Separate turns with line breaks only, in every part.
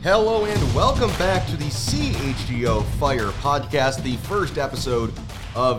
Hello and welcome back to the CHGO Fire Podcast, the first episode of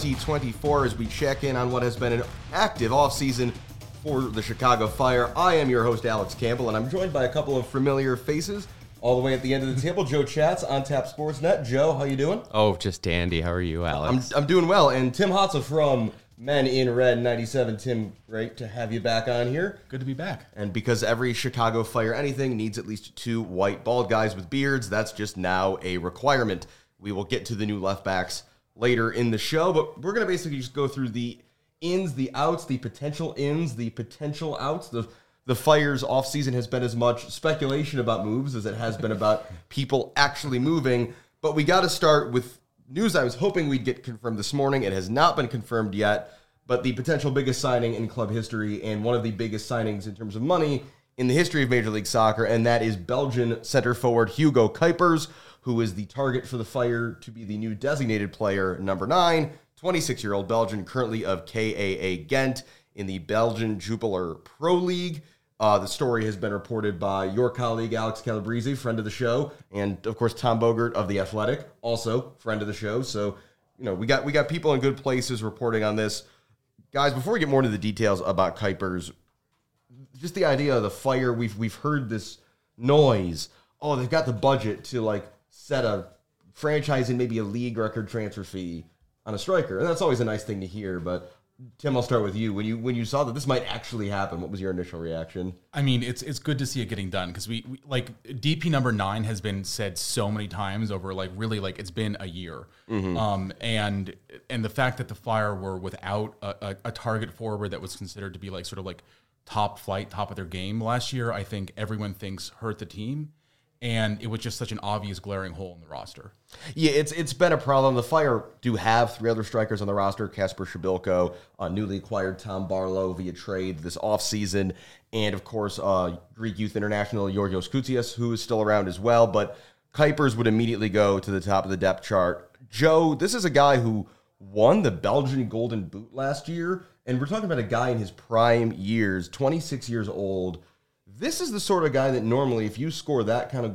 2024 as we check in on what has been an active offseason for the Chicago Fire. I am your host, Alex Campbell, and I'm joined by a couple of familiar faces all the way at the end of the table. Joe Chatz on Tap Sportsnet. Joe, how you doing?
Oh, just dandy. How are you, Alex?
I'm doing well. And Tim Hotza from Men in Red 97. Tim, great to have you back on here.
Good to be back.
And because every Chicago Fire anything needs at least two white bald guys with beards, that's just now a requirement. We will get to the new left backs later in the show, but we're going to basically just go through the ins, the outs, the potential ins, the potential outs. The Fire's offseason has been as much speculation about moves as it has been about people actually moving, but we got to start with news I was hoping we'd get confirmed this morning. It has not been confirmed yet, but the potential biggest signing in club history and one of the biggest signings in terms of money in the history of Major League Soccer, and that is Belgian center forward Hugo Kuipers, who is the target for the Fire to be the new designated player number 9, 26-year-old Belgian, currently of KAA Ghent in the Belgian Jupiler Pro League. The story has been reported by your colleague, Alex Calabrese, friend of the show, and, of course, Tom Bogert of The Athletic, also friend of the show. So, you know, we got people in good places reporting on this. Guys, before we get more into the details about Kuipers, just the idea of the Fire, we've heard this noise. Oh, they've got the budget to, like, set a franchise and maybe a league record transfer fee on a striker. And that's always a nice thing to hear, but Tim, I'll start with you. When you saw that this might actually happen, what was your initial reaction?
I mean, it's good to see it getting done because we like DP number 9 has been said so many times over it's been a year. Mm-hmm. And the fact that the Fire were without a target forward that was considered to be like sort of like top flight, top of their game last year, I think everyone thinks hurt the team. And it was just such an obvious glaring hole in the roster.
Yeah, it's been a problem. The Fire do have 3 other strikers on the roster: Kasper Shabilko, newly acquired Tom Barlow via trade this offseason, and of course Greek youth international Georgios Koutsias, who is still around as well. But Kuipers would immediately go to the top of the depth chart. Joe, this is a guy who won the Belgian Golden Boot last year, and we're talking about a guy in his prime years, 26 years old. This is the sort of guy that normally, if you score that kind of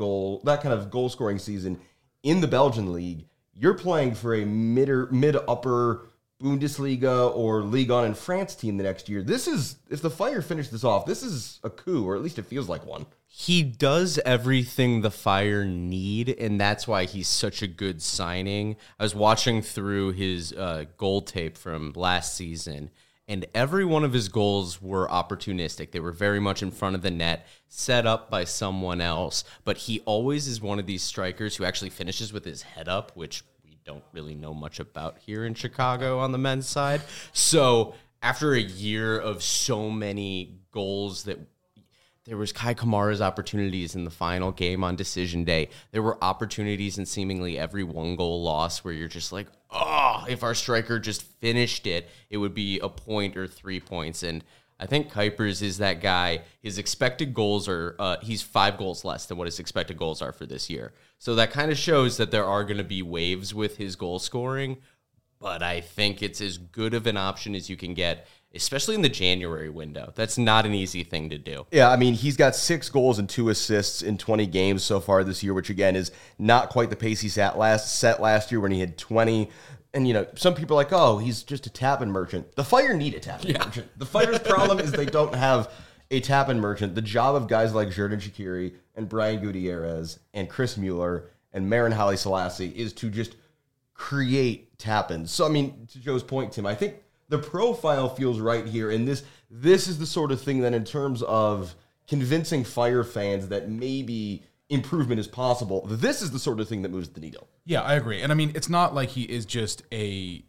goal scoring season in the Belgian league, you're playing for a mid-upper Bundesliga or Ligue 1 in France team the next year. This is, if the Fire finish this off, this is a coup, or at least it feels like one.
He does everything the Fire need, and that's why he's such a good signing. I was watching through his goal tape from last season, and every one of his goals were opportunistic. They were very much in front of the net, set up by someone else. But he always is one of these strikers who actually finishes with his head up, which we don't really know much about here in Chicago on the men's side. So after a year of so many goals that there was Kai Kamara's opportunities in the final game on decision day. There were opportunities in seemingly every 1-goal loss where you're just like, oh, if our striker just finished it, it would be a point or 3 points. And I think Kuipers is that guy. His expected goals are, he's 5 goals less than what his expected goals are for this year. So that kind of shows that there are going to be waves with his goal scoring. But I think it's as good of an option as you can get, especially in the January window. That's not an easy thing to do.
Yeah, I mean, he's got 6 goals and 2 assists in 20 games so far this year, which, again, is not quite the pace he set last year when he had 20. And, you know, some people are like, oh, he's just a tap-in merchant. The Fire need a tap-in merchant. The Fire's problem is they don't have a tap-in merchant. The job of guys like Xherdan Shaqiri and Brian Gutierrez and Chris Mueller and Marin Haile Selassie is to just create tap-ins. So, I mean, to Joe's point, Tim, I think the profile feels right here, and this is the sort of thing that in terms of convincing Fire fans that maybe improvement is possible, this is the sort of thing that moves the needle.
Yeah, I agree. And I mean, it's not like he is just a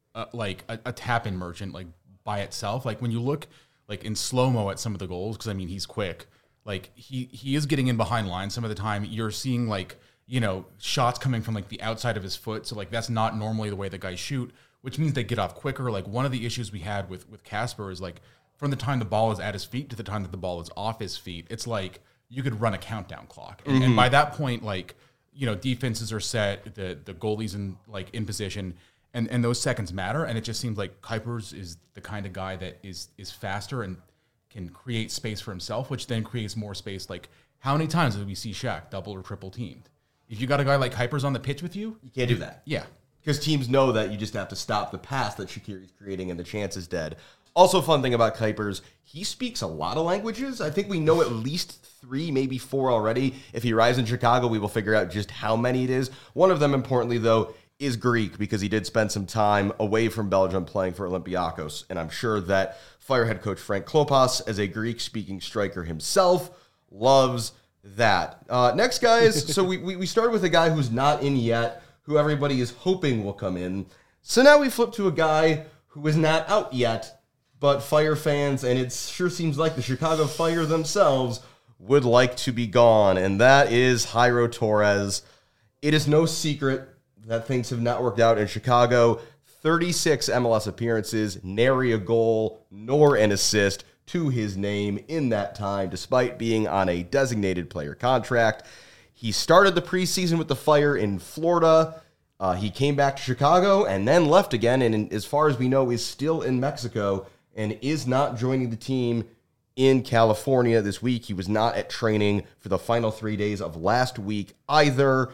tap-in merchant like by itself. Like when you look like in slow-mo at some of the goals, because I mean, he's quick. Like he is getting in behind lines some of the time. You're seeing like, you know, shots coming from like the outside of his foot. So like that's not normally the way the guys shoot, which means they get off quicker. Like one of the issues we had with Kasper is like from the time the ball is at his feet to the time that the ball is off his feet, it's like you could run a countdown clock. And by that point, like, you know, defenses are set, the goalie's in position, and those seconds matter. And it just seems like Kuipers is the kind of guy that is faster and can create space for himself, which then creates more space. Like, how many times did we see Shaq double or triple teamed? If you got a guy like Kuipers on the pitch with you,
You can't do that.
yeah.
Because teams know that you just have to stop the pass that Shaqiri's creating and the chance is dead. Also, fun thing about Kuipers, he speaks a lot of languages. I think we know at least 3, maybe 4 already. If he arrives in Chicago, we will figure out just how many it is. One of them, importantly, though, is Greek, because he did spend some time away from Belgium playing for Olympiacos. And I'm sure that Fire head coach Frank Klopas, as a Greek-speaking striker himself, loves that. Next, guys, so we started with a guy who's not in yet, who everybody is hoping will come in. So now we flip to a guy who is not out yet, but Fire fans, and it sure seems like the Chicago Fire themselves, would like to be gone, and that is Jairo Torres. It is no secret that things have not worked out in Chicago. 36 MLS appearances, nary a goal, nor an assist to his name in that time, despite being on a designated player contract. He started the preseason with the Fire in Florida. He came back to Chicago and then left again, and as far as we know, is still in Mexico and is not joining the team in California this week. He was not at training for the final 3 days of last week either.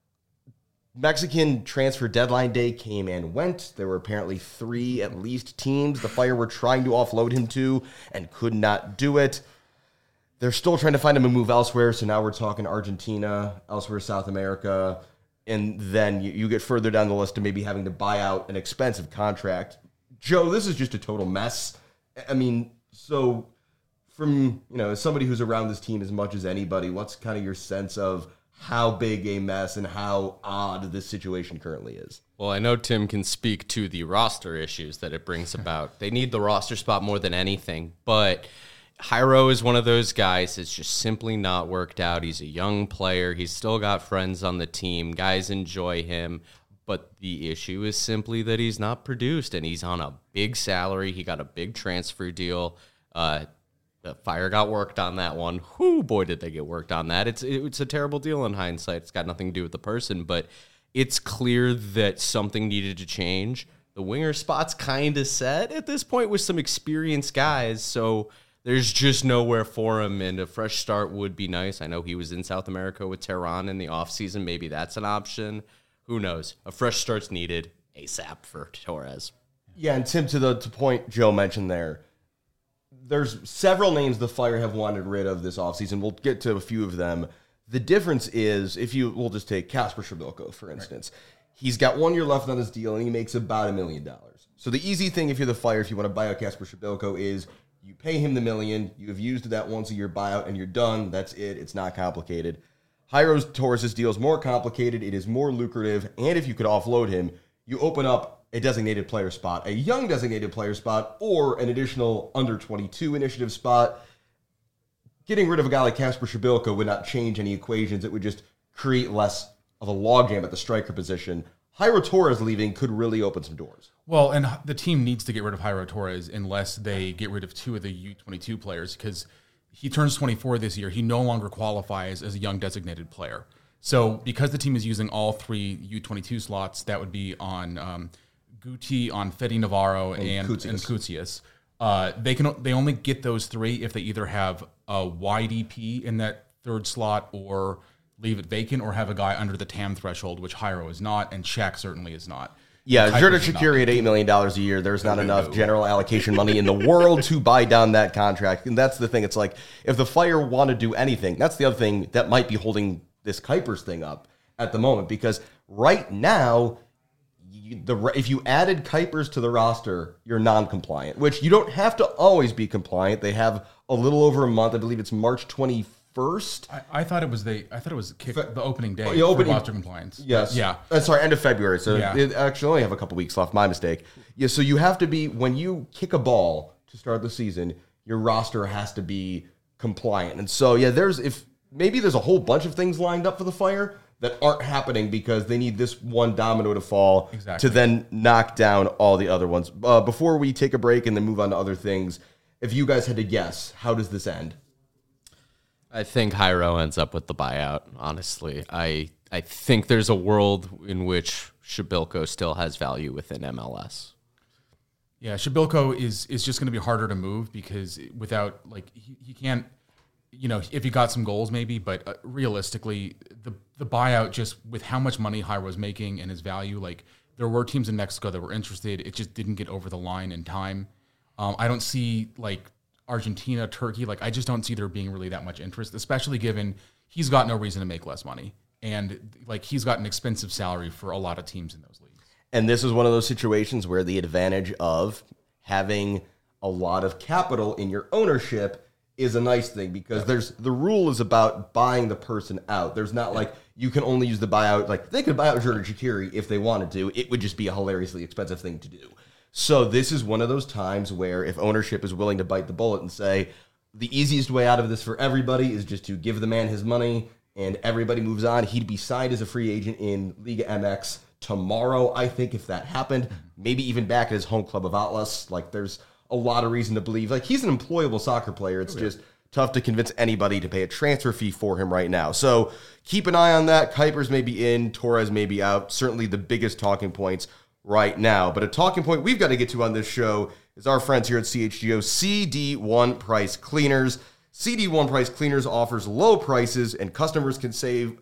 Mexican transfer deadline day came and went. There were apparently 3 at least teams the Fire were trying to offload him to and could not do it. They're still trying to find him a move elsewhere, so now we're talking Argentina, elsewhere South America, and then you get further down the list of maybe having to buy out an expensive contract. Joe, this is just a total mess. I mean, so from, as somebody who's around this team as much as anybody, what's kind of your sense of how big a mess and how odd this situation currently is?
Well, I know Tim can speak to the roster issues that it brings about. They need the roster spot more than anything, but Jairo is one of those guys that's just simply not worked out. He's a young player. He's still got friends on the team. Guys enjoy him. But the issue is simply that he's not produced, and he's on a big salary. He got a big transfer deal. The Fire got worked on that one. Whoo, boy, did they get worked on that. It's a terrible deal in hindsight. It's got nothing to do with the person, but it's clear that something needed to change. The winger spot's kind of set at this point with some experienced guys, so there's just nowhere for him, and a fresh start would be nice. I know he was in South America with Tehran in the offseason. Maybe that's an option. Who knows? A fresh start's needed ASAP for Torres.
Yeah, and Tim, to the point Joe mentioned there's several names the Fire have wanted rid of this offseason. We'll get to a few of them. The difference is, we'll just take Kasper Szybilko, for instance. Right. He's got 1 year left on his deal, and he makes about $1 million. So the easy thing, if you're the Fire, if you want to buy out Kasper Szybilko, is you pay him the $1 million, you have used that once-a-year buyout, and you're done. That's it. It's not complicated. Jairo Torres' deal is more complicated, it is more lucrative, and if you could offload him, you open up a designated player spot, a young designated player spot, or an additional under-22 initiative spot. Getting rid of a guy like Kasper Szybilko would not change any equations. It would just create less of a logjam at the striker position. Jairo Torres leaving could really open some doors.
Well, and the team needs to get rid of Jairo Torres unless they get rid of 2 of the U22 players, because he turns 24 this year. He no longer qualifies as a young designated player. So because the team is using all 3 U22 slots, that would be on Guti, on Fede Navarro, and Kutsias. They only get those 3 if they either have a YDP in that 3rd slot or leave it vacant, or have a guy under the TAM threshold, which Jairo is not, and Shaq certainly is not.
Yeah, Xherdan Shaqiri at $8 million a year, there's not enough general allocation money in the world to buy down that contract. And that's the thing. It's like, if the Fire want to do anything, that's the other thing that might be holding this Kuipers thing up at the moment. Because right now, if you added Kuipers to the roster, you're non-compliant, which you don't have to always be compliant. They have a little over a month. I believe it's March 21st.
I thought it was the opening day for roster compliance.
Yes.
Yeah.
Sorry, end of February. So it actually only have a couple weeks left. My mistake. Yeah. So you have to be, when you kick a ball to start the season, your roster has to be compliant. And so maybe there's a whole bunch of things lined up for the Fire that aren't happening because they need this one domino to fall to then knock down all the other ones. Before we take a break and then move on to other things, if you guys had to guess, how does this end?
I think Jairo ends up with the buyout, honestly. I think there's a world in which Szybilko still has value within MLS.
Yeah, Shabilko is just going to be harder to move because without he can't, if he got some goals maybe, but realistically the buyout, just with how much money Jairo was making and his value, like there were teams in Mexico that were interested. It just didn't get over the line in time. I don't see like Argentina, Turkey, like I just don't see there being really that much interest, especially given he's got no reason to make less money. And like he's got an expensive salary for a lot of teams in those leagues.
And this is one of those situations where the advantage of having a lot of capital in your ownership is a nice thing, because the rule is about buying the person out. There's not like you can only use the buyout. Like they could buy out Jordan Shaqiri if they wanted to. It would just be a hilariously expensive thing to do. So this is one of those times where if ownership is willing to bite the bullet and say the easiest way out of this for everybody is just to give the man his money and everybody moves on. He'd be signed as a free agent in Liga MX tomorrow, I think, if that happened. Maybe even back at his home club of Atlas. Like there's a lot of reason to believe like he's an employable soccer player. It's just tough to convince anybody to pay a transfer fee for him right now. So keep an eye on that. Kuipers may be in, Torres may be out. Certainly the biggest talking points right now. But a talking point we've got to get to on this show is our friends here at CHGO, CD1 Price Cleaners. CD1 Price Cleaners offers low prices, and customers can save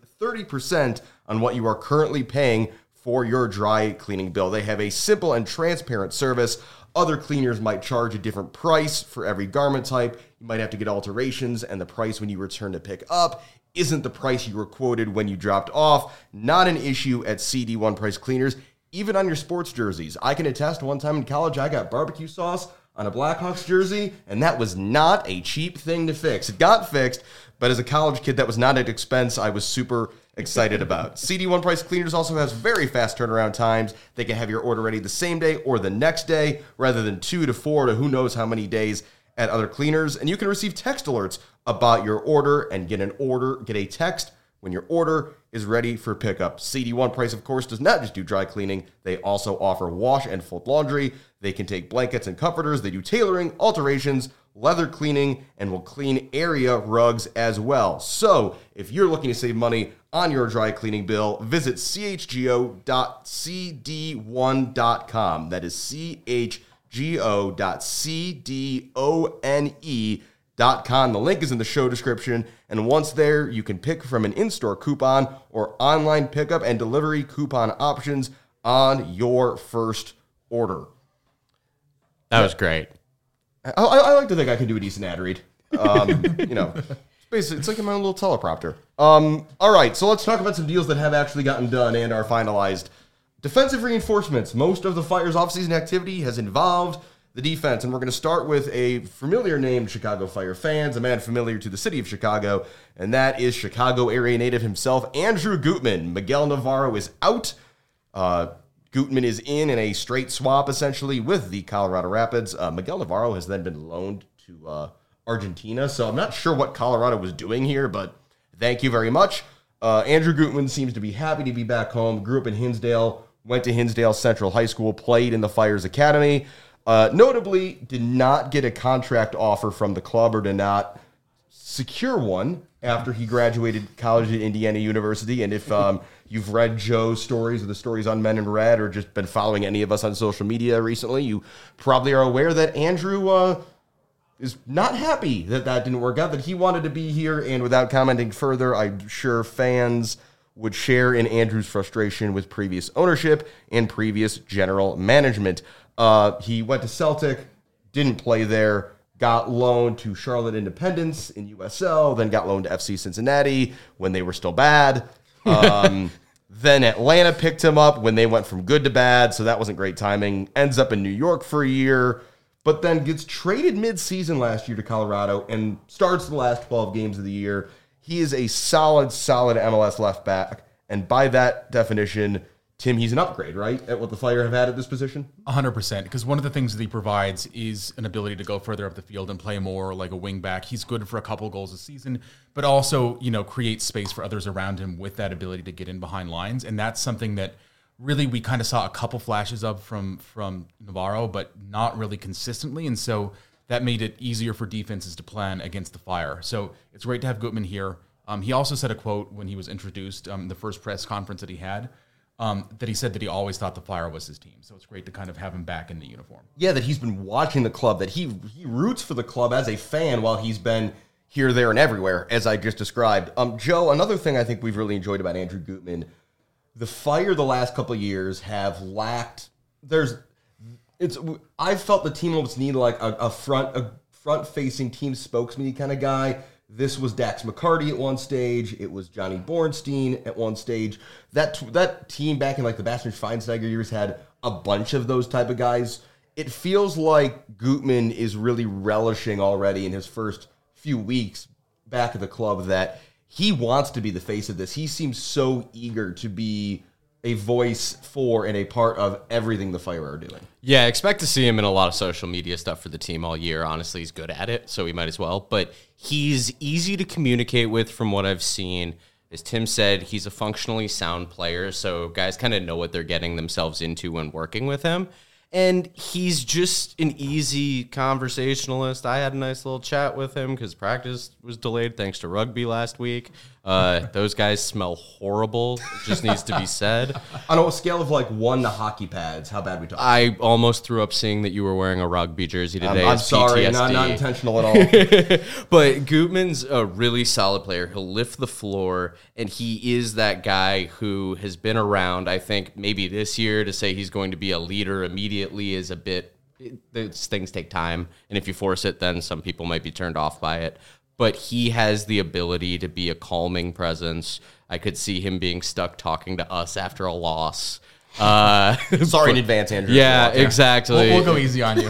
30% on what you are currently paying for your dry cleaning bill. They have a simple and transparent service. Other cleaners might charge a different price for every garment type. You might have to get alterations, and the price when you return to pick up isn't the price you were quoted when you dropped off. Not an issue at CD1 Price Cleaners, even on your sports jerseys. I can attest, one time in college, I got barbecue sauce on a Blackhawks jersey, and that was not a cheap thing to fix. It got fixed, but as a college kid, that was not an expense I was super excited about. CD1 Price Cleaners also has very fast turnaround times. They can have your order ready the same day or the next day, rather than 2 to 4 to who knows how many days at other cleaners. And you can receive text alerts about your order and get a text when your order is ready for pickup. CD1 Price, of course, does not just do dry cleaning. They also offer wash and fold laundry. They can take blankets and comforters. They do tailoring, alterations, leather cleaning, and will clean area rugs as well. So if you're looking to save money on your dry cleaning bill, visit chgo.cd1.com. That is chgo.cdone.com. The link is in the show description, and once there, you can pick from an in-store coupon or online pickup and delivery coupon options on your first order.
That was great.
I like to think I can do a decent ad read. Basically, it's like in my own little teleprompter. All right, so let's talk about some deals that have actually gotten done and are finalized. Defensive reinforcements. Most of the Fire's offseason activity has involved the defense, and we're going to start with a familiar name to Chicago Fire fans, a man familiar to the city of Chicago, and that is Chicago area native himself, Andrew Gutman. Miguel Navarro is out. Gutman is in a straight swap, essentially, with the Colorado Rapids. Miguel Navarro has then been loaned to Argentina, so I'm not sure what Colorado was doing here, but thank you very much. Andrew Gutman seems to be happy to be back home. Grew up in Hinsdale, went to Hinsdale Central High School, played in the Fire's Academy. Notably, did not get a contract offer from the club or did not secure one after he graduated college at Indiana University. And if you've read Joe's stories or the stories on Men in Red or just been following any of us on social media recently, you probably are aware that Andrew is not happy that didn't work out, that he wanted to be here. And without commenting further, I'm sure fans would share in Andrew's frustration with previous ownership and previous general management. He went to Celtic, didn't play there, got loaned to Charlotte Independence in USL, then got loaned to FC Cincinnati when they were still bad. Then Atlanta picked him up when they went from good to bad, so that wasn't great timing. Ends up in New York for a year, but then gets traded mid-season last year to Colorado and starts the last 12 games of the year. He is a solid MLS left back, and by that definition, Tim, he's an upgrade, right, at what the Fire have had at this position?
100%, because one of the things that he provides is an ability to go further up the field and play more like a wing back. He's good for a couple goals a season, but also, create space for others around him with that ability to get in behind lines, and that's something that really we kind of saw a couple flashes of from Navarro, but not really consistently, and so that made it easier for defenses to plan against the Fire. So it's great to have Gutman here. He also said a quote when he was introduced, the first press conference that he had. that he said that he always thought the Fire was his team. So it's great to kind of have him back in the uniform.
Yeah, that he's been watching the club, that he roots for the club as a fan while he's been here, there, and everywhere, as I just described. Joe, another thing I think we've really enjoyed about Andrew Gutman, the Fire the last couple of years have lacked. I felt the team almost needed like a front-facing team spokesman kind of guy. This was Dax McCarty at one stage. It was Johnny Bornstein at one stage. That team back in like the Bastian Schweinsteiger years had a bunch of those type of guys. It feels like Gutman is really relishing already in his first few weeks back at the club that he wants to be the face of this. He seems so eager to be a voice for and a part of everything the Fire are doing.
Yeah, expect to see him in a lot of social media stuff for the team all year. Honestly, he's good at it, so he might as well. But he's easy to communicate with from what I've seen. As Tim said, he's a functionally sound player, so guys kind of know what they're getting themselves into when working with him. And he's just an easy conversationalist. I had a nice little chat with him because practice was delayed thanks to rugby last week. Those guys smell horrible. It just needs to be said.
On a scale of like 1 to hockey pads, how bad we talking?
I almost threw up seeing that you were wearing a rugby jersey today.
I'm sorry,
PTSD.
not intentional at all.
But Gutman's a really solid player. He'll lift the floor, and he is that guy who has been around. I think maybe this year to say he's going to be a leader immediately is a bit. These things take time, and if you force it, then some people might be turned off by it. But he has the ability to be a calming presence. I could see him being stuck talking to us after a loss.
Sorry in advance, Andrew.
Yeah, exactly.
We'll go easy on you.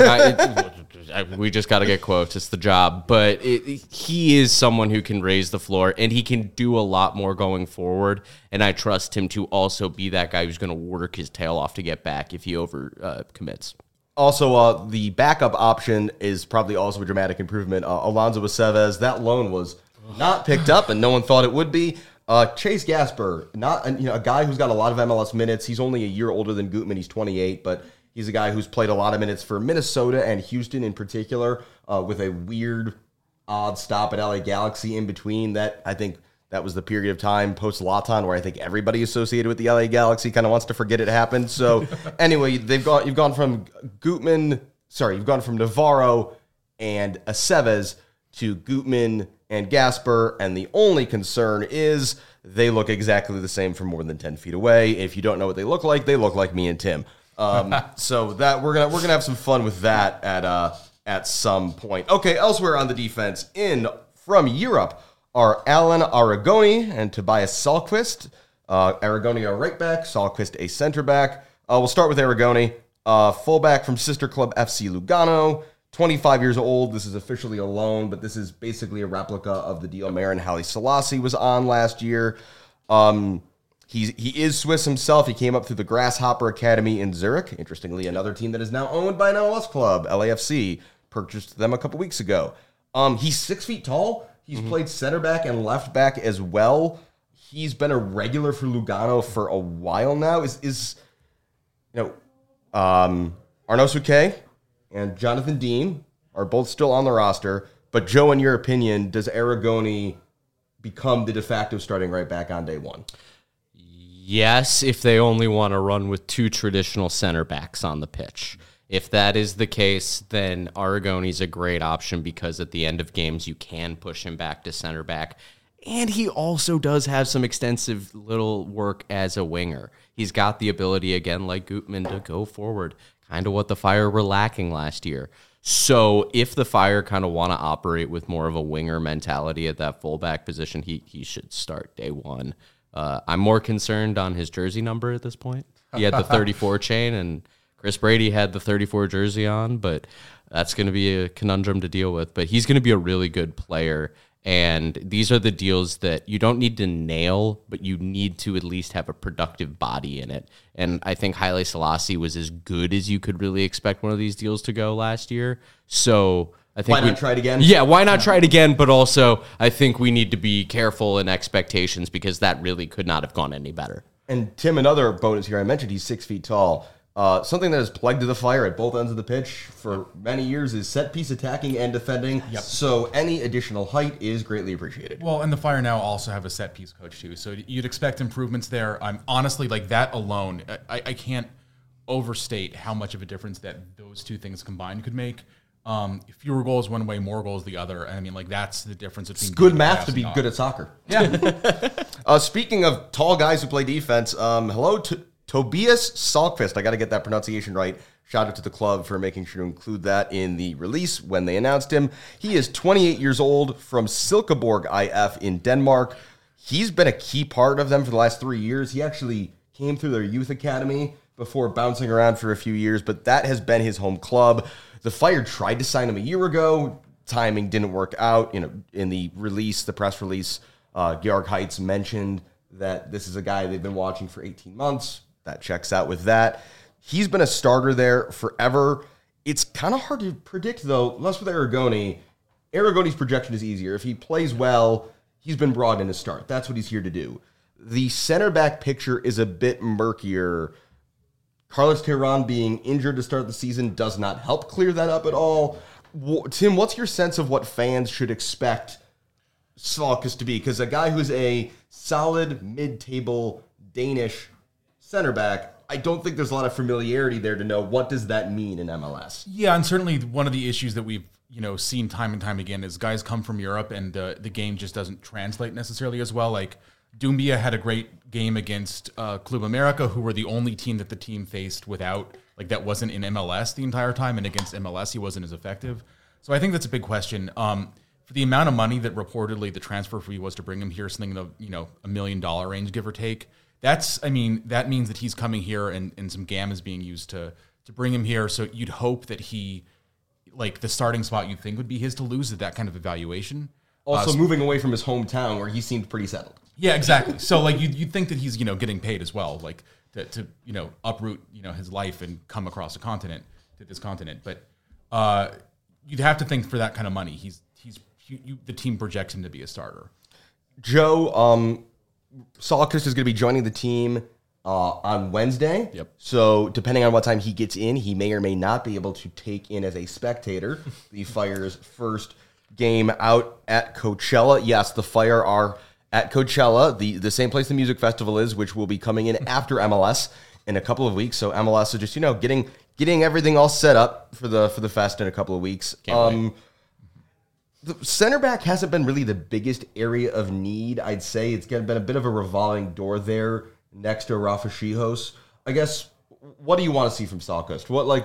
We just got to get quotes. It's the job. But he is someone who can raise the floor, and he can do a lot more going forward. And I trust him to also be that guy who's going to work his tail off to get back if he over commits.
Also, the backup option is probably also a dramatic improvement. Alonso Aceves, that loan was not picked up, and no one thought it would be. Chase Gasper, not a guy who's got a lot of MLS minutes. He's only a year older than Gutman. He's 28, but he's a guy who's played a lot of minutes for Minnesota and Houston in particular, with a weird, odd stop at LA Galaxy in between. That I think that was the period of time post-Laton where I think everybody associated with the LA Galaxy kind of wants to forget it happened. So anyway, you've gone from Navarro and Aceves to Gutman and Gasper, and the only concern is they look exactly the same from more than 10 feet away. If you don't know what they look like me and Tim. So that we're gonna have some fun with that at some point. Okay, elsewhere on the defense, from Europe are Alan Aragoni and Tobias Sahlqvist. Aragoni a right back, Sahlqvist a center back. We'll start with Aragoni, fullback from sister club FC Lugano, 25 years old. This is officially a loan, but this is basically a replica of the deal Marin Haile Selassie was on last year. He is Swiss himself. He came up through the Grasshopper Academy in Zurich. Interestingly, another team that is now owned by an MLS club, LAFC, purchased them a couple weeks ago. He's 6 feet tall. He's played center back and left back as well. He's been a regular for Lugano for a while now. Arnaud Souquet and Jonathan Dean are both still on the roster. But Joe, in your opinion, does Aragoni become the de facto starting right back on day one?
Yes, if they only want to run with two traditional center backs on the pitch. If that is the case, then Aragoni's a great option because at the end of games, you can push him back to center back. And he also does have some extensive little work as a winger. He's got the ability, again, like Gutman, to go forward, kind of what the Fire were lacking last year. So if the Fire kind of want to operate with more of a winger mentality at that fullback position, he should start day one. I'm more concerned on his jersey number at this point. He had the 34 chain, and Chris Brady had the 34 jersey on, but that's going to be a conundrum to deal with. But he's going to be a really good player, and these are the deals that you don't need to nail, but you need to at least have a productive body in it. And I think Haile Selassie was as good as you could really expect one of these deals to go last year. So I think
why not try it again?
Yeah, why not try it again? But also, I think we need to be careful in expectations because that really could not have gone any better.
And Tim, another bonus here, I mentioned he's 6 feet tall. Something that has plagued the Fire at both ends of the pitch for many years is set piece attacking and defending.
Yep.
So any additional height is greatly appreciated.
Well, and the Fire now also have a set piece coach too, so you'd expect improvements there. I'm honestly like that alone. I can't overstate how much of a difference that those two things combined could make. Fewer goals one way, more goals the other. And I mean, like that's the difference between
It's good math to be good at soccer.
Yeah.
Speaking of tall guys who play defense, hello to Tobias Salkvist. I got to get that pronunciation right. Shout out to the club for making sure to include that in the release when they announced him. He is 28 years old from Silkeborg IF in Denmark. He's been a key part of them for the last 3 years. He actually came through their youth academy before bouncing around for a few years, but that has been his home club. The Fire tried to sign him a year ago. Timing didn't work out. In the release, the press release, Georg Heitz mentioned that this is a guy they've been watching for 18 months. That checks out with that. He's been a starter there forever. It's kind of hard to predict, though, less with Aragoni. Aragoni's projection is easier. If he plays well, he's been brought in to start. That's what he's here to do. The center back picture is a bit murkier. Carlos Terán being injured to start the season does not help clear that up at all. Tim, what's your sense of what fans should expect Salkvist to be? Because a guy who's a solid mid-table Danish center back, I don't think there's a lot of familiarity there to know what does that mean in MLS.
Yeah, and certainly one of the issues that we've seen time and time again is guys come from Europe and the game just doesn't translate necessarily as well. Like Doumbia had a great game against Club America, who were the only team that the team faced without, like that wasn't in MLS the entire time, and against MLS he wasn't as effective. So I think that's a big question. For the amount of money that reportedly the transfer fee was to bring him here, something in the $1 million range, give or take. That means that he's coming here and some GAM is being used to bring him here. So you'd hope that he, like the starting spot you'd think would be his to lose at that kind of evaluation.
Also moving away from his hometown where he seemed pretty settled.
Yeah, exactly. So like you'd think that he's getting paid as well, like to uproot his life and come across this continent. But you'd have to think for that kind of money, the team projects him to be a starter.
Joe, Salkvist is going to be joining the team on Wednesday.
Yep.
So depending on what time he gets in, he may or may not be able to take in as a spectator the Fire's first game out at Coachella. Yes, the Fire are at Coachella, the same place the music festival is, which will be coming in after MLS in a couple of weeks. So MLS is just getting everything all set up for the fest in a couple of weeks. The center back hasn't been really the biggest area of need. I'd say it's been a bit of a revolving door there next to Rafa Schihos. I guess, what do you want to see from Salkvist?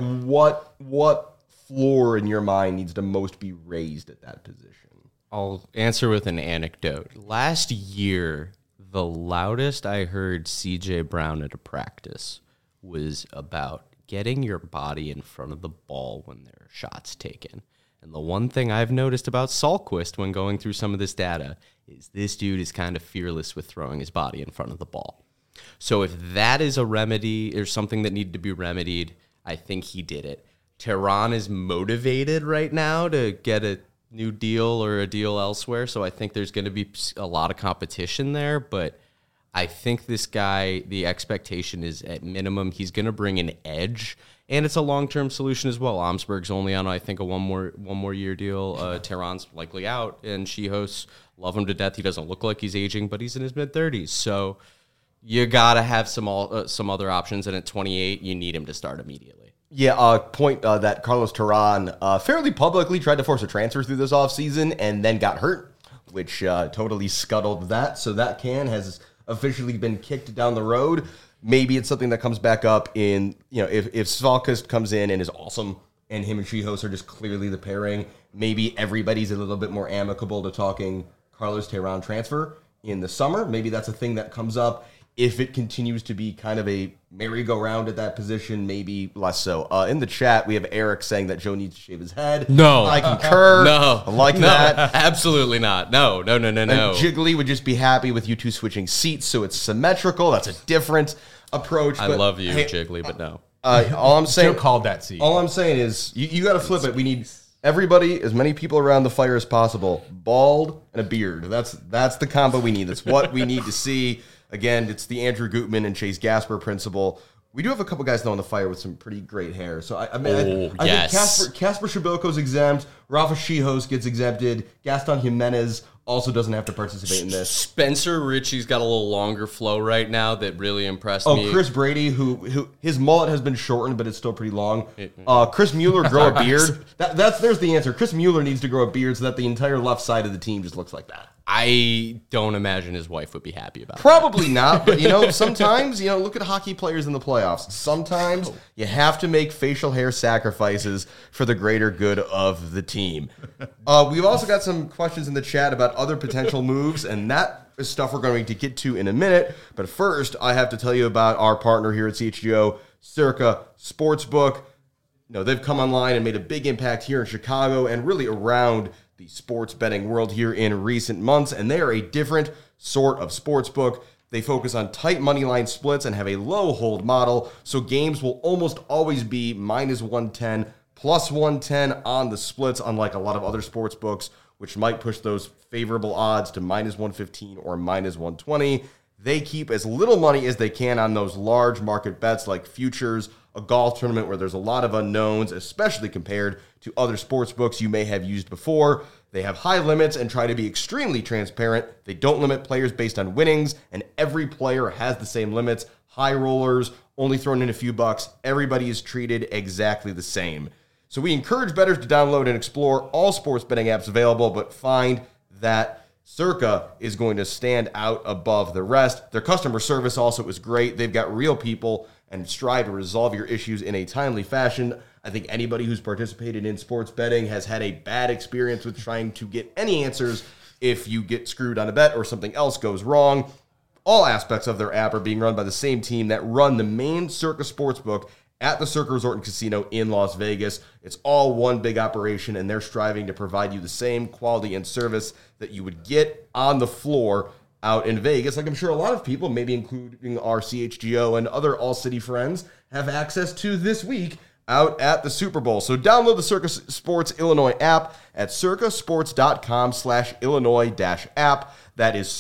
What floor in your mind needs to most be raised at that position?
I'll answer with an anecdote. Last year, the loudest I heard CJ Brown at a practice was about getting your body in front of the ball when there are shots taken. And the one thing I've noticed about Salkvist when going through some of this data is this dude is kind of fearless with throwing his body in front of the ball. So if that is a remedy or something that needed to be remedied, I think he did it. Terán is motivated right now to get a new deal or a deal elsewhere, so I think there's going to be a lot of competition there, but I think this guy, the expectation is at minimum he's going to bring an edge, and it's a long-term solution as well. Omsberg's only on, I think, a one more year deal. Terán's likely out, and Schihos, love him to death. He doesn't look like he's aging, but he's in his mid-30s, so you got to have some other options, and at 28, you need him to start immediately.
Yeah, point that Carlos Terán fairly publicly tried to force a transfer through this offseason and then got hurt, which totally scuttled that. So that can has officially been kicked down the road. Maybe it's something that comes back up in, if Salkvist comes in and is awesome and him and Schihos are just clearly the pairing, maybe everybody's a little bit more amicable to talking Carlos Terán transfer in the summer. Maybe that's a thing that comes up. If it continues to be kind of a merry-go-round at that position, maybe less so. In the chat, we have Eric saying that Joe needs to shave his head.
No.
I concur.
No.
I like that.
Absolutely not. No.
And Jiggly would just be happy with you two switching seats, so it's symmetrical. That's a different approach.
I love you, Jiggly, but no.
All I'm saying,
Joe called that seat.
All I'm saying is you got to flip it. We need everybody, as many people around the Fire as possible, bald and a beard. That's the combo we need. That's what we need to see. Again, it's the Andrew Gutman and Chase Gasper principle. We do have a couple guys though on the Fire with some pretty great hair. So I think
yes.
Casper Shabilko's exempt. Rafa Schihos gets exempted. Gaston Jimenez also doesn't have to participate in this.
Spencer Ritchie's got a little longer flow right now that really impressed me.
Oh, Chris Brady, who his mullet has been shortened, but it's still pretty long. Chris Mueller grow a beard. There's the answer. Chris Mueller needs to grow a beard so that the entire left side of the team just looks like that.
I don't imagine his wife would be happy about
Probably not, but sometimes, look at hockey players in the playoffs. Sometimes you have to make facial hair sacrifices for the greater good of the team. We've also got some questions in the chat about other potential moves, and that is stuff we're going to get to in a minute. But first, I have to tell you about our partner here at CHGO, Circa Sportsbook. They've come online and made a big impact here in Chicago and really around the sports betting world here in recent months, and they are a different sort of sports book. They focus on tight money line splits and have a low hold model, so games will almost always be minus 110, plus 110 on the splits, unlike a lot of other sports books, which might push those favorable odds to minus 115 or minus 120. They keep as little money as they can on those large market bets like futures, a golf tournament where there's a lot of unknowns, especially compared to other sports books you may have used before. They have high limits and try to be extremely transparent. They don't limit players based on winnings, and every player has the same limits. High rollers, only thrown in a few bucks. Everybody is treated exactly the same. So we encourage bettors to download and explore all sports betting apps available, but find that Circa is going to stand out above the rest. Their customer service also is great. They've got real people and strive to resolve your issues in a timely fashion. I think anybody who's participated in sports betting has had a bad experience with trying to get any answers if you get screwed on a bet or something else goes wrong. All aspects of their app are being run by the same team that run the main Circa Sportsbook at the Circa Resort and Casino in Las Vegas. It's all one big operation, and they're striving to provide you the same quality and service that you would get on the floor out in Vegas, like I'm sure a lot of people, maybe including our CHGO and other All-City friends, have access to this week out at the Super Bowl. So download the Circa Sports Illinois app at circasports.com/Illinois-app. That is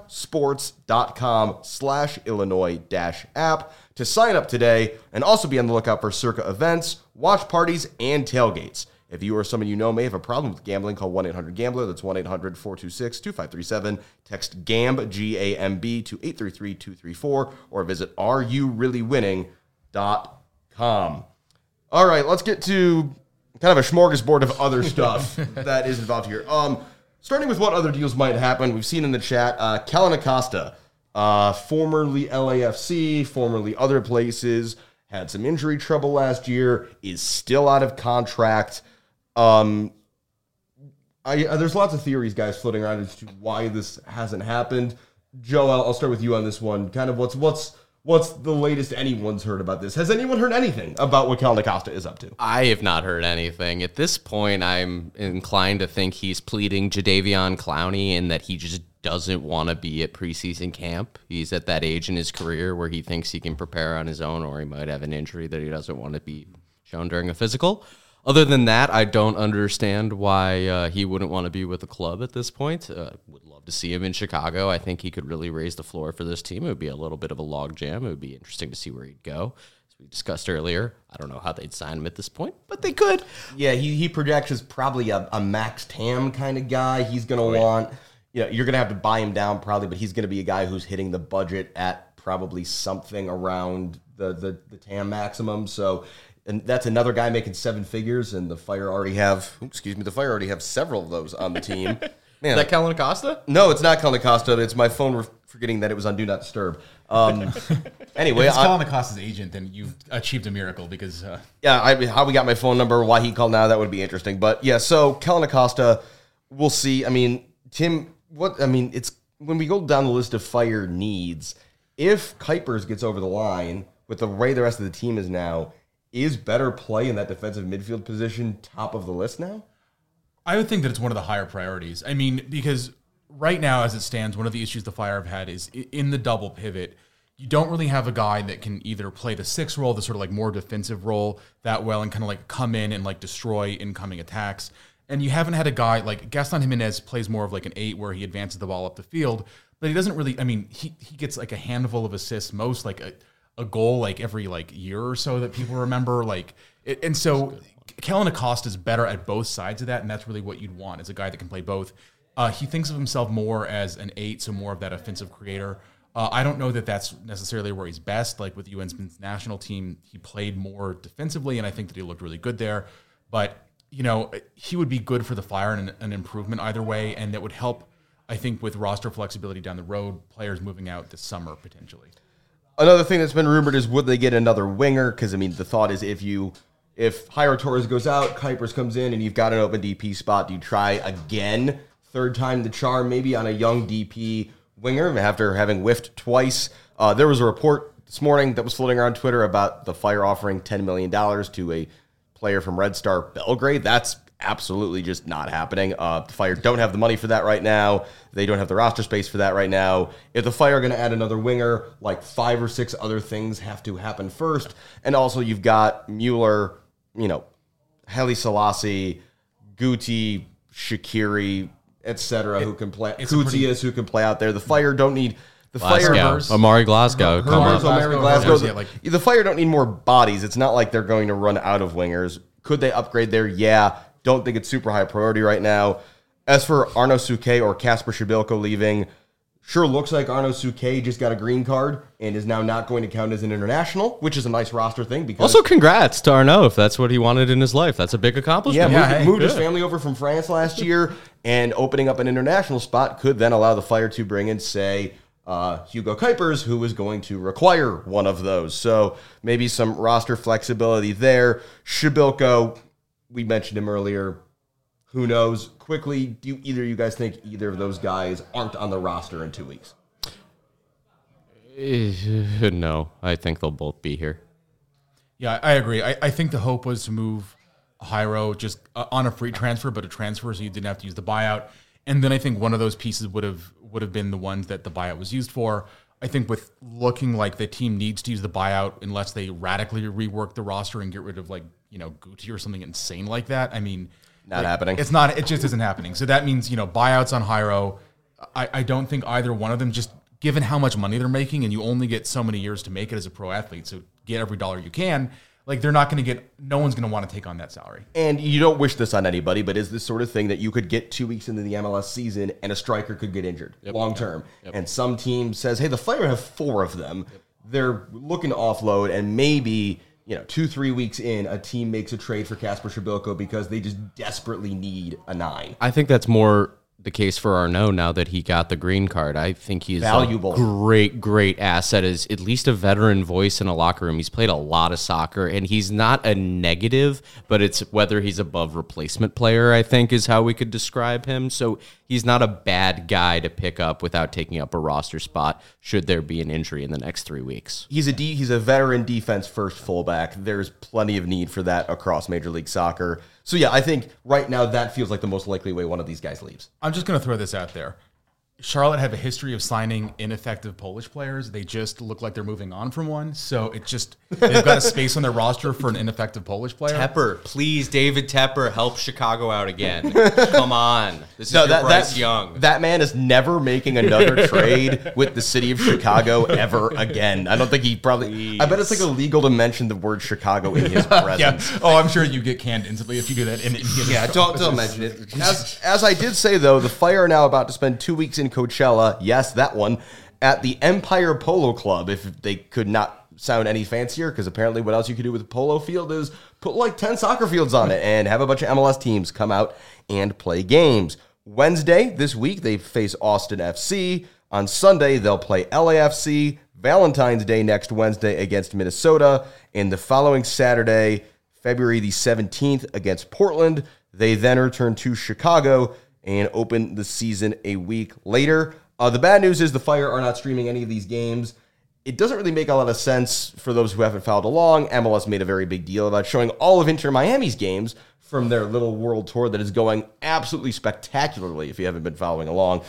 circasports.com/Illinois-app to sign up today, and also be on the lookout for Circa events, watch parties, and tailgates. If you or someone you know may have a problem with gambling, call 1-800-GAMBLER. That's 1-800-426-2537. Text GAMB, G-A-M-B, to 833-234, or visit areyoureallywinning.com. All right, let's get to kind of a smorgasbord of other stuff that is involved here. Starting with what other deals might happen, we've seen in the chat, Kellyn Acosta, formerly LAFC, formerly other places, had some injury trouble last year, is still out of contract. There's lots of theories, guys, floating around as to why this hasn't happened. Joe, I'll start with you on this one. Kind of what's the latest anyone's heard about this? Has anyone heard anything about what Kellyn Acosta is up to?
I have not heard anything. At this point, I'm inclined to think he's pleading Jadeveon Clowney and that he just doesn't want to be at preseason camp. He's at that age in his career where he thinks he can prepare on his own, or he might have an injury that he doesn't want to be shown during a physical. Other than that, I don't understand why he wouldn't want to be with the club at this point. Would love to see him in Chicago. I think he could really raise the floor for this team. It would be a little bit of a log jam. It would be interesting to see where he'd go. As we discussed earlier, I don't know how they'd sign him at this point, but they could.
Yeah, he projects as probably a Max Tam kind of guy. He's going to want, you're going to have to buy him down probably, but he's going to be a guy who's hitting the budget at probably something around the Tam maximum. So, and that's another guy making seven figures, and the Fire already have several of those on the team. Man,
is that Kellyn Acosta?
No, it's not Kellyn Acosta. It's my phone forgetting that it was on Do Not Disturb. Anyway,
if it's Kellyn Acosta's agent, then you've achieved a miracle because...
how we got my phone number, why he called now, that would be interesting. But yeah, so Kellyn Acosta, we'll see. I mean, Tim, it's when we go down the list of Fire needs, if Kuipers gets over the line with the way the rest of the team is now, is better play in that defensive midfield position top of the list now?
I would think that it's one of the higher priorities. I mean, because right now, as it stands, one of the issues the Fire have had is in the double pivot, you don't really have a guy that can either play the 6 role, the sort of like more defensive role that well, and kind of like come in and like destroy incoming attacks. And you haven't had a guy like Gaston Jimenez plays more of like an 8 where he advances the ball up the field, but he doesn't really, I mean, he gets like a handful of assists, most like a a goal like every like year or so that people remember. And so Kellen Acosta is better at both sides of that, and that's really what you'd want, is a guy that can play both. He thinks of himself more as an 8, so more of that offensive creator. I don't know that that's necessarily where he's best. Like with the U.S. men's national team, he played more defensively, and I think that he looked really good there. But, he would be good for the Fire and an improvement either way, and that would help, I think, with roster flexibility down the road, players moving out this summer potentially.
Another thing that's been rumored is, would they get another winger? Because, the thought is if Jairo Torres goes out, Kuipers comes in, and you've got an open DP spot, do you try again? Third time the charm, maybe on a young DP winger after having whiffed twice. There was a report this morning that was floating around Twitter about the Fire offering $10 million to a player from Red Star Belgrade. That's absolutely just not happening. The Fire don't have the money for that right now. They don't have the roster space for that right now. If the Fire are going to add another winger, like 5 or 6 other things have to happen first. And also you've got Mueller, Haile Selassie, Guti, Shaqiri, etc., who can play. Kutias, who can play out there. The Fire don't need the Fire.
Amari Glasgow.
The Fire don't need more bodies. It's not like they're going to run out of wingers. Could they upgrade there? Yeah. Don't think it's super high priority right now. As for Arno Suquet or Kasper Shibilko leaving, sure looks like Arno Suquet just got a green card and is now not going to count as an international, which is a nice roster thing. Because
also, congrats to Arno if that's what he wanted in his life. That's a big accomplishment.
Moved his family over from France last year, and opening up an international spot could then allow the Fire to bring in, say, Hugo Kuipers, who is going to require one of those. So maybe some roster flexibility there. Shibilko, we mentioned him earlier. Who knows? Quickly, do either of you guys think either of those guys aren't on the roster in 2 weeks?
No, I think they'll both be here.
Yeah, I agree. I think the hope was to move Jairo just on a free transfer, but a transfer so you didn't have to use the buyout. And then I think one of those pieces would have been the ones that the buyout was used for. I think with looking like the team needs to use the buyout unless they radically rework the roster and get rid of Guti or something insane like that.
Not happening.
It's not. It just isn't happening. So that means buyouts on Jairo. I don't think either one of them, just given how much money they're making, and you only get so many years to make it as a pro athlete. So get every dollar you can. They're not going to get. No one's going to want to take on that salary.
And you don't wish this on anybody, but is this sort of thing that you could get 2 weeks into the MLS season and a striker could get injured long term, and some team says, "Hey, the Fire have 4 of them. They're looking to offload, and maybe." 2-3 weeks in, a team makes a trade for Kasper Shibilko because they just desperately need a 9.
I think that's more the case for Arnaud now that he got the green card. I think he's
valuable,
a great asset, as at least a veteran voice in a locker room. He's played a lot of soccer, and he's not a negative, but it's whether he's above replacement player, I think, is how we could describe him. So he's not a bad guy to pick up without taking up a roster spot should there be an injury in the next 3 weeks.
He's a veteran defense first fullback. There's plenty of need for that across Major League Soccer. So yeah, I think right now that feels like the most likely way one of these guys leaves.
I'm just going to throw this out there. Charlotte have a history of signing ineffective Polish players. They just look like they're moving on from one. So they've got a space on their roster for an ineffective Polish player.
Tepper, please, David Tepper, help Chicago out again. Come on. This is Bryce Young.
That man is never making another trade with the city of Chicago ever again. I don't think he probably... I bet it's illegal to mention the word Chicago in his presence.
Yeah. Oh, I'm sure you get canned instantly if you do that.
Don't mention it. As I did say, though, the Fire are now about to spend 2 weeks in Coachella, yes, that one, at the Empire Polo Club, if they could not sound any fancier, because apparently what else you could do with a polo field is put 10 soccer fields on it and have a bunch of MLS teams come out and play games. Wednesday this week, they face Austin FC. On Sunday, they'll play LAFC. Valentine's Day next Wednesday against Minnesota. And the following Saturday, February the 17th, against Portland. They then return to Chicago and open the season a week later. The bad news is the Fire are not streaming any of these games. It doesn't really make a lot of sense for those who haven't followed along. MLS made a very big deal about showing all of Inter Miami's games from their little world tour that is going absolutely spectacularly if you haven't been following along.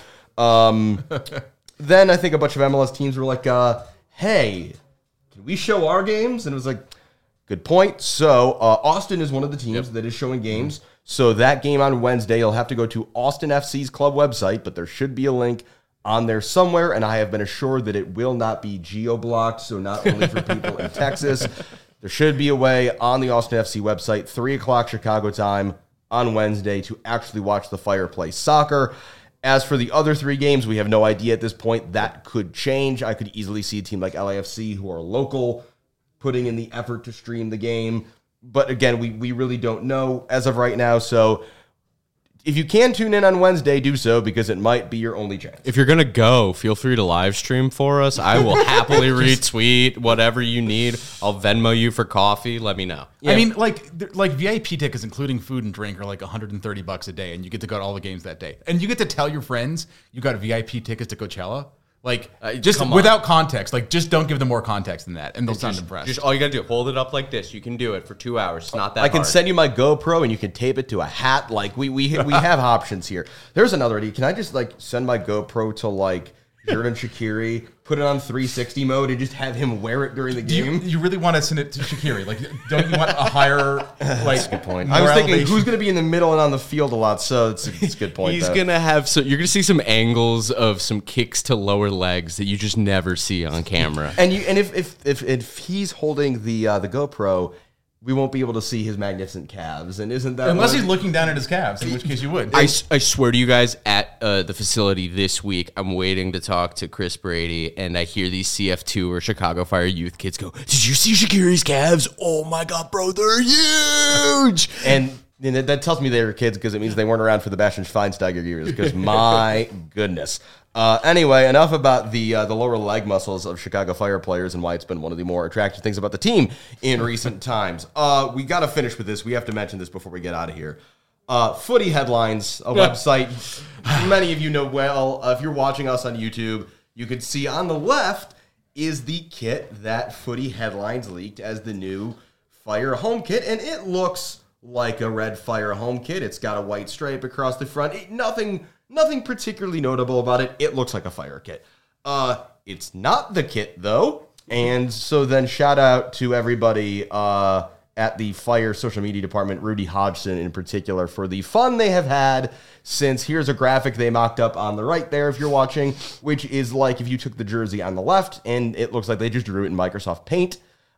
Then I think a bunch of MLS teams were like, hey, can we show our games? And it was like, good point. So Austin is one of the teams that is showing games. So that game on Wednesday, you'll have to go to Austin FC's club website, but there should be a link on there somewhere, and I have been assured that it will not be geo-blocked, so not only for people in Texas. There should be a way on the Austin FC website, 3 o'clock Chicago time on Wednesday, to actually watch the Fire play soccer. As for the other 3 games, we have no idea at this point. That could change. I could easily see a team like LAFC, who are local, putting in the effort to stream the game. But again, we really don't know as of right now, so if you can tune in on Wednesday, do so, because it might be your only chance.
If you're going to go, feel free to live stream for us. I will happily retweet whatever you need. I'll Venmo you for coffee. Let me know.
Yeah. I mean, like VIP tickets, including food and drink, are like $130 a day, and you get to go to all the games that day. And you get to tell your friends you got VIP tickets to Coachella. Like, just without context. Like, just don't give them more context than that, and they'll sound impressed.
Just all you got to do, hold it up like this. You can do it for 2 hours. It's not that
I can
hard.
send you my GoPro, and you can tape it to a hat. Like, we have options here. There's another idea. Can I just, like, send my GoPro to, like, Xherdan Shaqiri, put it on 360 mode, and just have him wear it during the game?
You really want to send it to Shaqiri? Like, don't you want a higher, like...
That's a good point. I was thinking, who's going to be in the middle and on the field a lot, so it's a good point.
He's going to have... So you're going to see some angles of some kicks to lower legs that you just never see on camera.
And if he's holding the GoPro, we won't be able to see his magnificent calves, and isn't that
unless he's looking down at his calves, in which case you would.
I swear to you guys, at the facility this week, I'm waiting to talk to Chris Brady, and I hear these CF2 or Chicago Fire youth kids go, "Did you see Shaqiri's calves? Oh my god, bro, they're huge!"
And that tells me they were kids, because it means they weren't around for the Bastian Schweinsteiger years, because my goodness. Anyway, enough about the lower leg muscles of Chicago Fire players and why it's been one of the more attractive things about the team in recent times. We got to finish with this. We have to mention this before we get out of here. Footy Headlines, a website many of you know well. If you're watching us on YouTube, you can see on the left is the kit that Footy Headlines leaked as the new Fire home kit, and it looks like a red Fire home kit. It's got a white stripe across the front. Nothing particularly notable about it. It looks like a Fire kit. It's not the kit, though. And so then shout out to everybody at the Fire social media department, Rudy Hodgson in particular, for the fun they have had since here's a graphic they mocked up on the right there if you're watching, which is like if you took the jersey on the left and it looks like they just drew it in Microsoft Paint.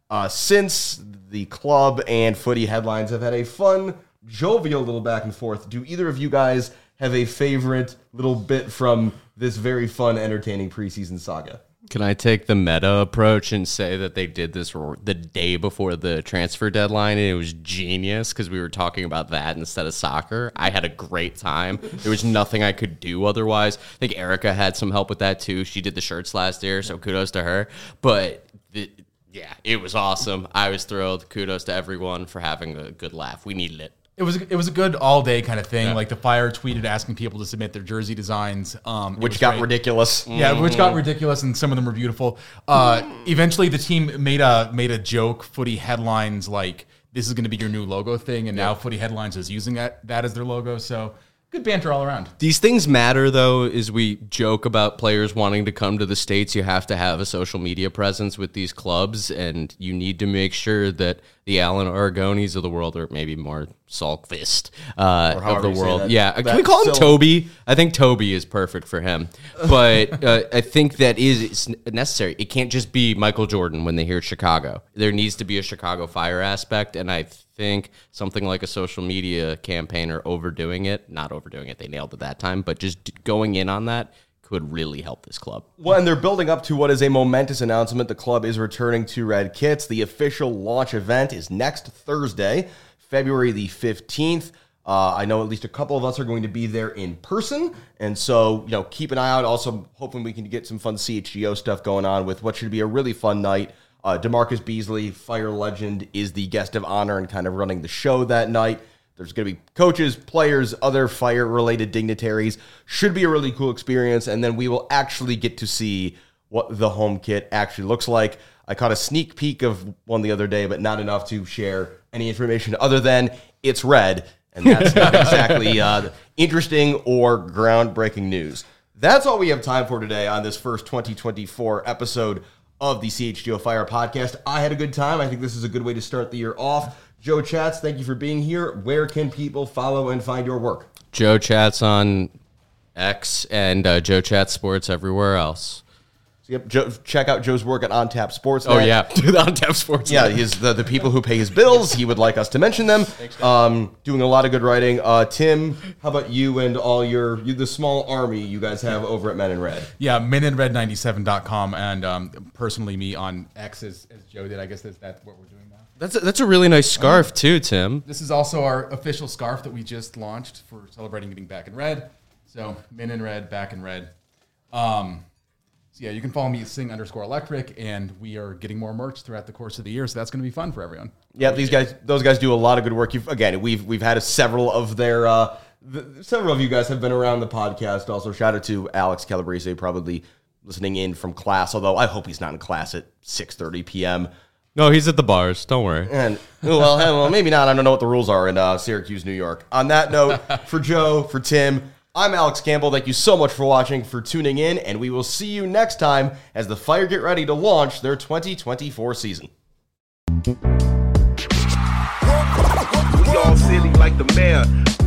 Since the club and Footy Headlines have had a fun, jovial little back and forth, do either of you guys have a favorite little bit from this very fun, entertaining preseason saga?
Can I take the meta approach and say that they did this the day before the transfer deadline, and it was genius because we were talking about that instead of soccer? I had a great time. There was nothing I could do otherwise. I think Erica had some help with that too. She did the shirts last year, so kudos to her. But yeah, it was awesome. I was thrilled. Kudos to everyone for having a good laugh. We needed it.
It was a good all day kind of thing. Yeah. Like the Fire tweeted asking people to submit their jersey designs,
which got ridiculous.
Yeah, which got ridiculous, and some of them were beautiful. Eventually, the team made a joke. Footy Headlines, like, this is going to be your new logo thing, and now Footy Headlines is using that as their logo. So good banter all around.
These things matter, though, as we joke about players wanting to come to the States. You have to have a social media presence with these clubs, and you need to make sure that the Alan Aragonis of the world, or maybe more Salkvist of the world. Can we call him Toby? I think Toby is perfect for him. But I think that is necessary. It can't just be Michael Jordan when they hear Chicago. There needs to be a Chicago Fire aspect, and I think something like a social media campaign or overdoing it, not overdoing it, they nailed it that time, but just going in on that could really help this club.
Well, and they're building up to what is a momentous announcement. The club is returning to red kits. The official launch event is next Thursday, February the 15th. I know at least a couple of us are going to be there in person, and so keep an eye out. Also, hoping we can get some fun CHGO stuff going on with what should be a really fun night. DeMarcus Beasley, Fire legend, is the guest of honor and kind of running the show that night. There's going to be coaches, players, other Fire-related dignitaries. Should be a really cool experience, and then we will actually get to see what the home kit actually looks like. I caught a sneak peek of one the other day, but not enough to share any information other than it's red, and that's not exactly interesting or groundbreaking news. That's all we have time for today on this first 2024 episode of the CHGO Fire podcast. I had a good time. I think this is a good way to start the year off. Joe Chats, thank you for being here. Where can people follow and find your work?
Joe Chats on X and Joe Chat Sports everywhere else.
Yep, check out Joe's work at On Tap Sports.
Oh yeah, On Tap Sports.
Yeah, he's the people who pay his bills. He would like us to mention them. Doing a lot of good writing. Tim, how about you and all the small army you guys have over at Men in Red?
Yeah, meninred97.com, and personally me on X as Joe did. I guess that's what we're doing now.
That's a really nice scarf too, Tim.
This is also our official scarf that we just launched for celebrating getting back in red. So Men in Red, back in red. So yeah, you can follow me at Sing_Electric, and we are getting more merch throughout the course of the year. So that's going to be fun for everyone.
Yeah, those guys do a lot of good work. We've had several of their several of you guys have been around the podcast. Also, shout out to Alex Calabrese, probably listening in from class. Although I hope he's not in class at 6:30 p.m.
No, he's at the bars. Don't worry.
And well, maybe not. I don't know what the rules are in Syracuse, New York. On that note, for Joe, for Tim, I'm Alex Campbell. Thank you so much for watching, for tuning in, and we will see you next time as the Fire get ready to launch their 2024 season.
We all silly like the mayor.